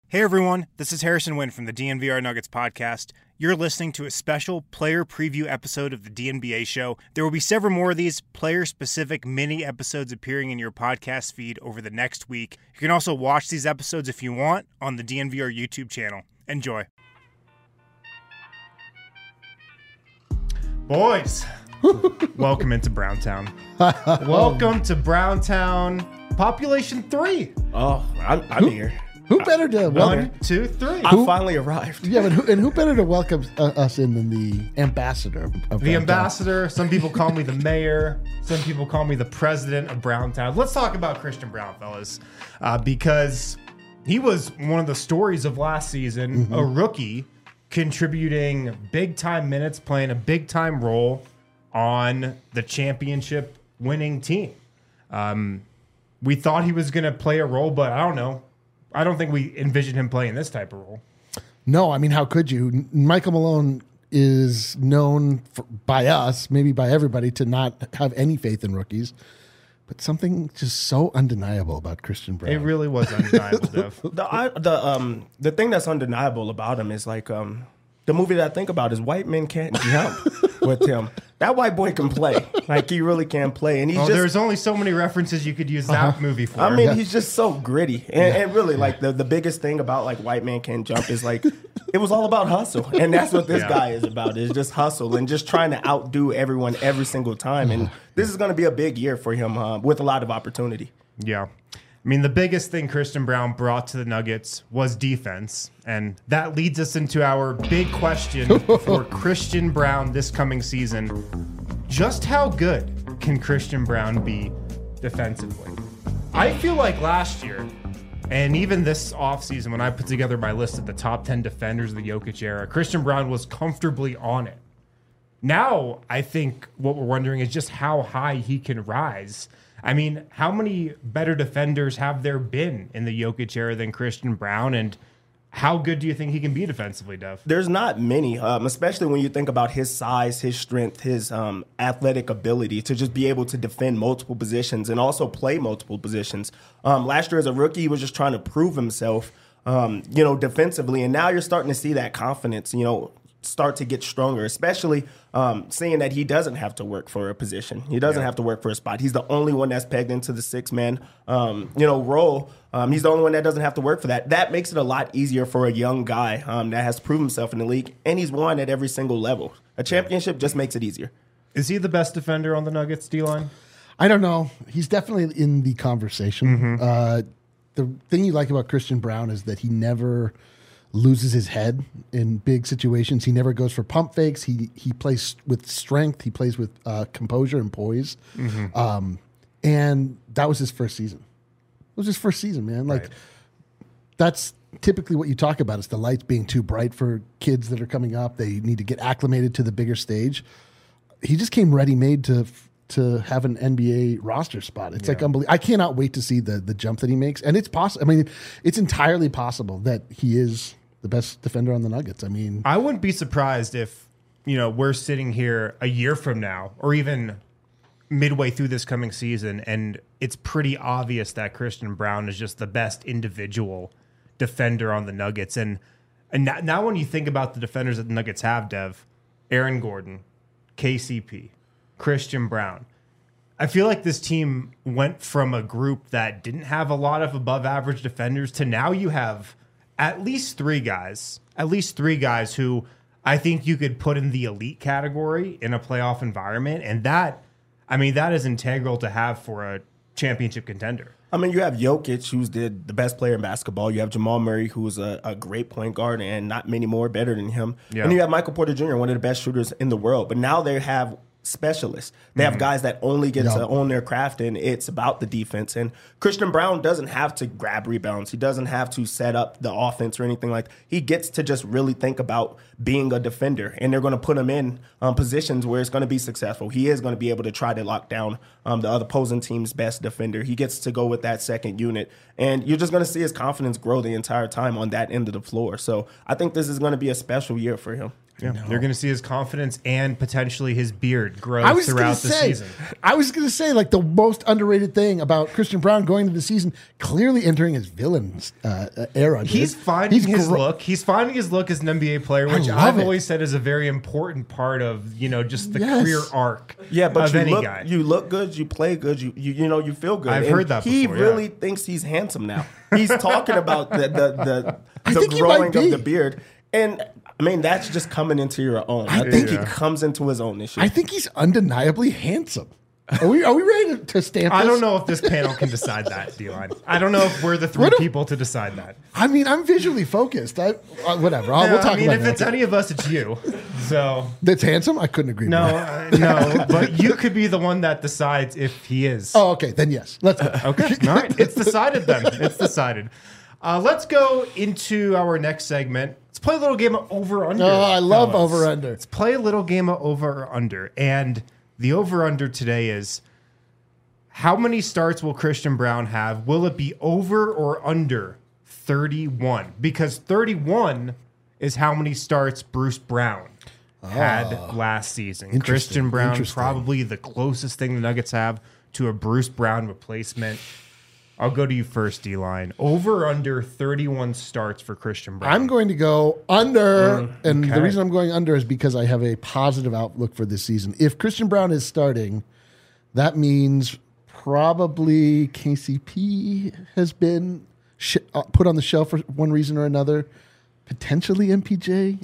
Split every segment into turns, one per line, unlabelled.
Hey everyone, this is Harrison Wynn from the DNVR Nuggets podcast. You're listening to a special player preview episode of the DNBA show. There will be several more of these player-specific mini episodes appearing in your podcast feed over the next week. You can also watch these episodes if you want on the DNVR YouTube channel. Enjoy. Boys, welcome into Browntown. Welcome to Browntown, population 3.
Oh, I'm here.
Who better to welcome?
1, 2, 3.
I finally arrived.
Yeah, but who better to welcome us in than the ambassador of
The
Browntown?
ambassador. Some people call me the mayor. Some people call me the president of Browntown. Let's talk about Christian Braun, fellas, because he was one of the stories of last season. A rookie contributing big-time minutes, playing a big-time role on the championship-winning team. We thought he was going to play a role, but I don't know. I don't think we envisioned him playing this type of role.
No, I mean, how could you? Michael Malone is known by us, maybe by everybody, to not have any faith in rookies. But something just so undeniable about Christian Braun.
It really was undeniable, Dev.
The thing that's undeniable about him is like the movie that I think about is White Men Can't Jump with him. That white boy can play. Like, he really can play. And he's
there's only so many references you could use that movie for.
I mean, he's just so gritty. And really, like, the biggest thing about, like, White Man Can't Jump is, like, it was all about hustle. And that's what this guy is about, is just hustle and just trying to outdo everyone every single time. And this is going to be a big year for him with a lot of opportunity.
Yeah. I mean, the biggest thing Christian Braun brought to the Nuggets was defense. And that leads us into our big question for Christian Braun this coming season. Just how good can Christian Braun be defensively? I feel like last year, and even this offseason, when I put together my list of the top 10 defenders of the Jokic era, Christian Braun was comfortably on it. Now, I think what we're wondering is just how high he can rise. I mean, how many better defenders have there been in the Jokic era than Christian Braun? And how good do you think he can be defensively, Dev?
There's not many, especially when you think about his size, his strength, his athletic ability to just be able to defend multiple positions and also play multiple positions. Last year as a rookie, he was just trying to prove himself, defensively. And now you're starting to see that confidence, start to get stronger, especially seeing that he doesn't have to work for a position. He doesn't have to work for a spot. He's the only one that's pegged into the six-man, role. He's the only one that doesn't have to work for that. That makes it a lot easier for a young guy that has proven himself in the league, and he's won at every single level. A championship just makes it easier.
Is he the best defender on the Nuggets D-line?
I don't know. He's definitely in the conversation. The thing you like about Christian Braun is that he never loses his head in big situations. He never goes for pump fakes. He plays with strength. He plays with composure and poise. And that was his first season. It was his first season, man. Like, that's typically what you talk about, is the lights being too bright for kids that are coming up. They need to get acclimated to the bigger stage. He just came ready-made to have an NBA roster spot. It's like unbelievable. I cannot wait to see the jump that he makes. And it's possible. I mean, it's entirely possible that he is the best defender on the Nuggets. I mean,
I wouldn't be surprised if, we're sitting here a year from now or even midway through this coming season, and it's pretty obvious that Christian Braun is just the best individual defender on the Nuggets. And now when you think about the defenders that the Nuggets have, Dev, Aaron Gordon, KCP, Christian Braun, I feel like this team went from a group that didn't have a lot of above average defenders to now you have at least three guys who I think you could put in the elite category in a playoff environment. And that is integral to have for a championship contender.
I mean, you have Jokic, who's the best player in basketball. You have Jamal Murray, who's a great point guard, and not many more better than him. Yeah. And you have Michael Porter Jr., one of the best shooters in the world. But now they have specialists. They have guys that only get to own their craft, and it's about the defense. And Christian Braun doesn't have to grab rebounds. He doesn't have to set up the offense or anything like that. He gets to just really think about being a defender, and they're going to put him in positions where it's going to be successful. He is going to be able to try to lock down the other opposing team's best defender. He gets to go with that second unit, and you're just going to see his confidence grow the entire time on that end of the floor. So I think this is going to be a special year for him.
Yeah, you're going to see his confidence and potentially his beard grow
I was
throughout
gonna
the
say,
season.
I was going to say, like, the most underrated thing about Christian Brown going into the season, clearly entering his villain's era. dude.
He's finding his
gro-
look. He's finding his look as an NBA player, which
love
I've
it.
always said is a very important part of just the
Yes.
career arc.
Yeah, but
of
you
any
look,
guy.
you look good, you play good, you feel good.
I've
And
heard that
he
before, yeah.
really thinks he's handsome now. He's talking about the
think he
growing
might
of
be.
the beard, and I mean that's just coming into your own. I think he comes into his own this year.
I think he's undeniably handsome. Are we ready to stamp this?
I don't know if this panel can decide that, D-Line. I don't know if we're the three
What if-
people to decide that.
I mean, I'm visually focused. Whatever. We'll
Yeah,
talk
I mean,
about
if
it.
it's any of us, it's you. So
That's handsome? I couldn't agree
no,
more.
no, but you could be the one that decides if he is.
Oh, okay. Then yes. Let's go.
Okay. All right. It's decided then. It's decided. Let's go into our next segment. Let's play a little game of over-under.
Oh, I love
fellas.
over-under.
Let's play a little game of over-under. And the over-under today is how many starts will Christian Brown have? Will it be over or under 31? Because 31 is how many starts Bruce Brown had last season.
Interesting,
Christian Brown,
interesting.
probably the closest thing the Nuggets have to a Bruce Brown replacement. I'll go to you first, D-Line. Over or under 31 starts for Christian Brown.
I'm going to go under, and the
okay.
reason I'm going under is because I have a positive outlook for this season. If Christian Brown is starting, that means probably KCP has been put on the shelf for one reason or another, potentially MPJ.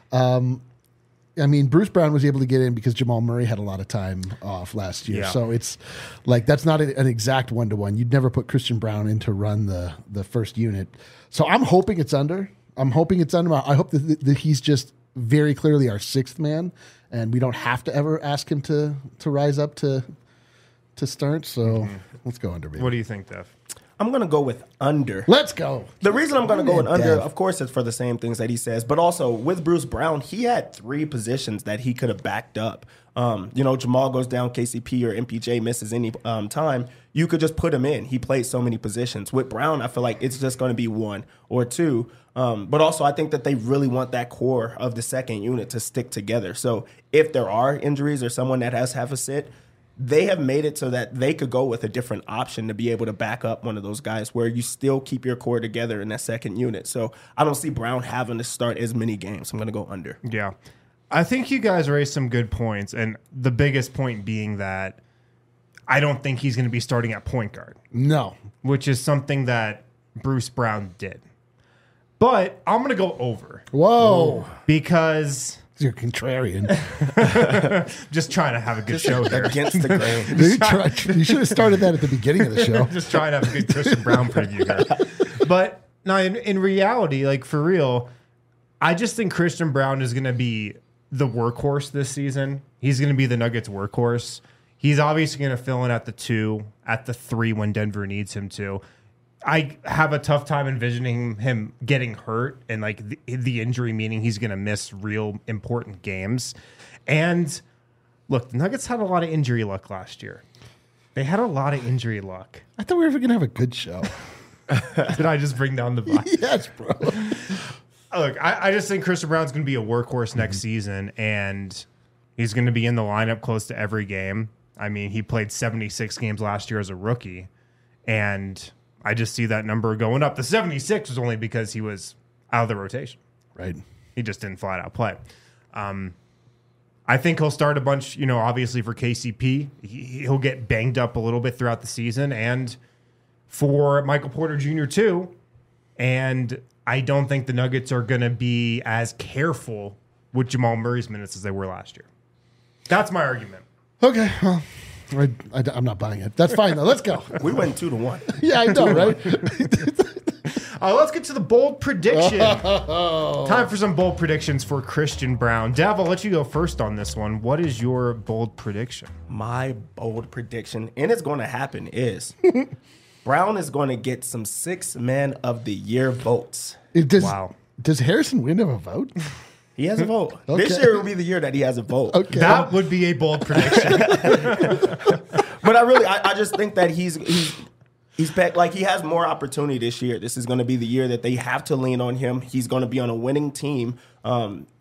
I mean, Bruce Brown was able to get in because Jamal Murray had a lot of time off last year.
Yeah.
So it's like that's not an exact one-to-one. You'd never put Christian Brown in to run the first unit. So I'm hoping it's under. I hope that he's just very clearly our sixth man, and we don't have to ever ask him to rise up to start. So let's go under, baby.
What do you think, Dev?
I'm gonna go with under.
Let's go.
The reason I'm going to go with
Yeah,
under,
Dev.
of course, is for the same things that he says, but also with Bruce Brown, he had three positions that he could have backed up. Jamal goes down, KCP or MPJ misses any time. You could just put him in. He played so many positions. With Brown, I feel like it's just going to be one or two. But also, I think that they really want that core of the second unit to stick together. So if there are injuries or someone that has half a sit, they have made it so that they could go with a different option to be able to back up one of those guys where you still keep your core together in that second unit. So I don't see Brown having to start as many games. I'm going to go under.
Yeah. I think you guys raised some good points, and the biggest point being that I don't think he's going to be starting at point guard,
No.
which is something that Bruce Brown did. But I'm going to go over
Whoa.
because
You're contrarian.
just trying to have a good show here.
Against the grain.
You should have started that at the beginning of the show.
Just trying to have a good Christian Brown preview here. But no, in reality, like for real, I just think Christian Brown is going to be the workhorse this season. He's going to be the Nuggets workhorse. He's obviously going to fill in at the 2, at the 3 when Denver needs him to. I have a tough time envisioning him getting hurt and like the injury, meaning he's going to miss real important games. And look, the Nuggets had a lot of injury luck last year. They had a lot of injury luck.
I thought we were going to have a good show.
Did I just bring down the vibe?
Yes, bro.
Look, I just think Christian Brown's going to be a workhorse next season, and he's going to be in the lineup close to every game. I mean, he played 76 games last year as a rookie, and I just see that number going up. The 76 was only because he was out of the rotation.
Right.
He just didn't flat out play. I think he'll start a bunch, obviously for KCP. He'll get banged up a little bit throughout the season, and for Michael Porter Jr. too. And I don't think the Nuggets are going to be as careful with Jamal Murray's minutes as they were last year. That's my argument.
Okay. Well, I'm not buying it. That's fine, though. Let's go.
We went 2-1.
Yeah, I know, right?
Let's get to the bold prediction. Time for some bold predictions for Christian Brown. Dav, I'll let you go first on this one. What is your bold prediction?
My bold prediction, and it's going to happen, is Brown is going to get some 6 Man of the Year votes.
Wow.
Does Harrison Wind have a vote?
He has a vote.
Okay.
This year will be the year that he has a vote.
Okay.
That would be a bold prediction.
But I just think that he's back. Like, he has more opportunity this year. This is going to be the year that they have to lean on him. He's going to be on a winning team.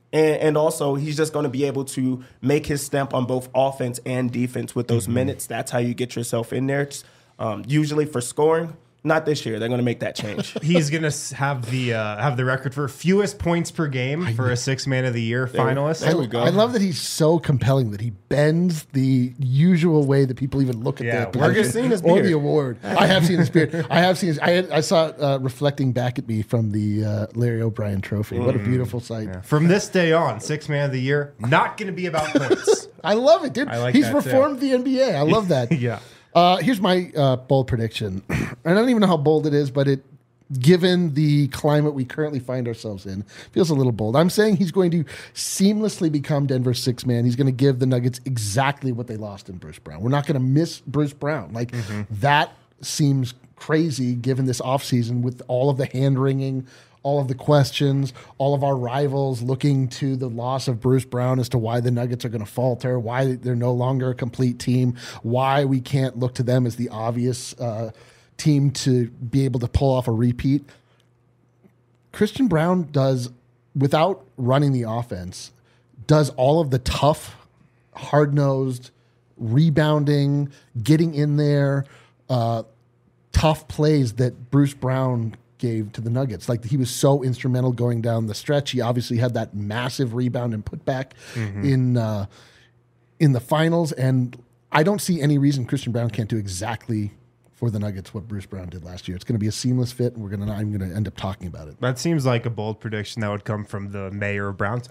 And also, he's just going to be able to make his stamp on both offense and defense with those minutes. That's how you get yourself in there. Usually for scoring, not this year. They're going to make that change.
He's going to have the record for fewest points per game for a 6th Man of the Year finalist.
There we go.
I love that he's so compelling that he bends the usual way that people even look at
Yeah,
the
we're
position
seen his
or
beard.
the award. I have seen his beard. I have seen his. I saw it reflecting back at me from the Larry O'Brien Trophy. What a beautiful sight!
From this day on, 6th Man of the Year, not going to be about points.
I love it, dude.
I like
He's
that, too.
reformed the NBA. I love that.
Yeah.
Here's my bold prediction. I don't even know how bold it is, but given the climate we currently find ourselves in, feels a little bold. I'm saying he's going to seamlessly become Denver's 6th man. He's going to give the Nuggets exactly what they lost in Bruce Brown. We're not going to miss Bruce Brown. Like that seems crazy given this offseason with all of the hand-wringing, all of the questions, all of our rivals looking to the loss of Bruce Brown as to why the Nuggets are going to falter, why they're no longer a complete team, why we can't look to them as the obvious team to be able to pull off a repeat. Christian Brown does, without running the offense, does all of the tough, hard-nosed, rebounding, getting in there, tough plays that Bruce Brown gave to the Nuggets. Like, he was so instrumental going down the stretch. He obviously had that massive rebound and putback in the finals, and I don't see any reason Christian Brown can't do exactly for the Nuggets what Bruce Brown did last year. It's going to be a seamless fit, and I'm going to end up talking about it.
That seems like a bold prediction that would come from the mayor of Browntown.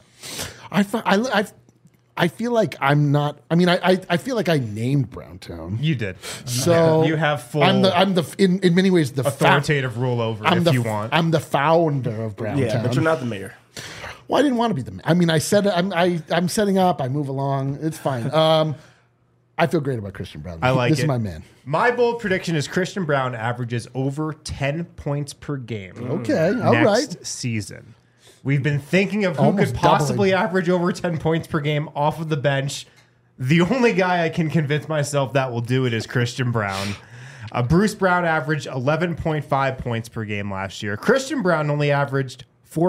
I feel like I'm not. I mean, I feel like I named Browntown.
You did.
So
you have full
I'm the in many ways the
authoritative rule over it if you want.
I'm the founder of Browntown.
Yeah, but you're not the mayor.
Well, I didn't want to be the. I mean, I said I'm setting up. I move along. It's fine. I feel great about Christian Brown.
I like
this
it.
is my man.
My bold prediction is Christian Brown averages over 10 points per game.
Okay, all right.
Next season. We've been thinking of who
Almost
could possibly
doubling.
average over 10 points per game off of the bench. The only guy I can convince myself that will do it is Christian Brown. Bruce Brown averaged 11.5 points per game last year. Christian Brown only averaged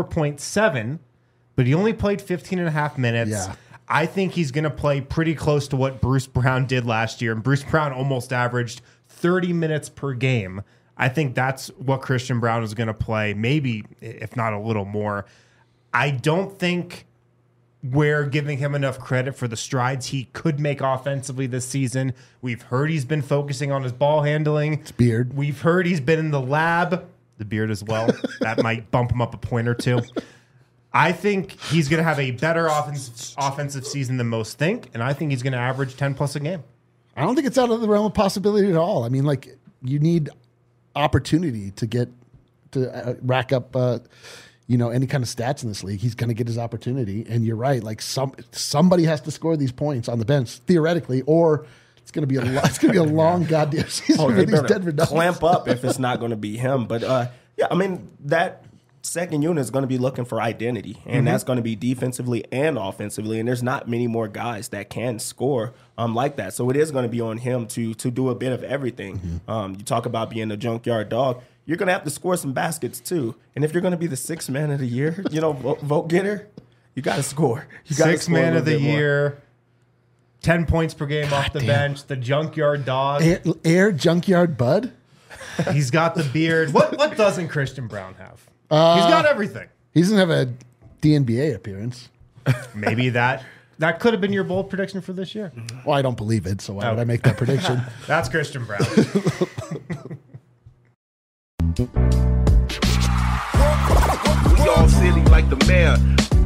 4.7, but he only played 15 and a half minutes.
Yeah.
I think he's going to play pretty close to what Bruce Brown did last year. And Bruce Brown almost averaged 30 minutes per game. I think that's what Christian Brown is going to play, maybe if not a little more. I don't think we're giving him enough credit for the strides he could make offensively this season. We've heard he's been focusing on his ball handling. His
beard.
We've heard he's been in the lab. The beard as well. That might bump him up a point or two. I think he's going to have a better offensive season than most think, and I think he's going to average 10 plus a game.
I don't think it's out of the realm of possibility at all. I mean, like, you need opportunity to get to rack up, any kind of stats in this league. He's going to get his opportunity, and you're right. Like, somebody has to score these points on the bench theoretically, or it's going to be a long goddamn season for these Denver Nuggets.
Clamp up if it's not going to be him. But I mean that second unit is going to be looking for identity, and that's going to be defensively and offensively. And there's not many more guys that can score like that. So it is going to be on him to do a bit of everything. You talk about being a junkyard dog. You're going to have to score some baskets too. And if you're going to be the 6th man of the year, vote getter, you got to score. You got
6th man of the year, 10 points per game off the bench, the junkyard dog.
Air junkyard bud.
He's got the beard. What doesn't Christian Brown have? He's got everything.
He doesn't have a DNBA appearance.
Maybe that could have been your bold prediction for this year.
Well, I don't believe it, so why would I make that prediction?
That's Christian Brown.
We all silly like the mayor.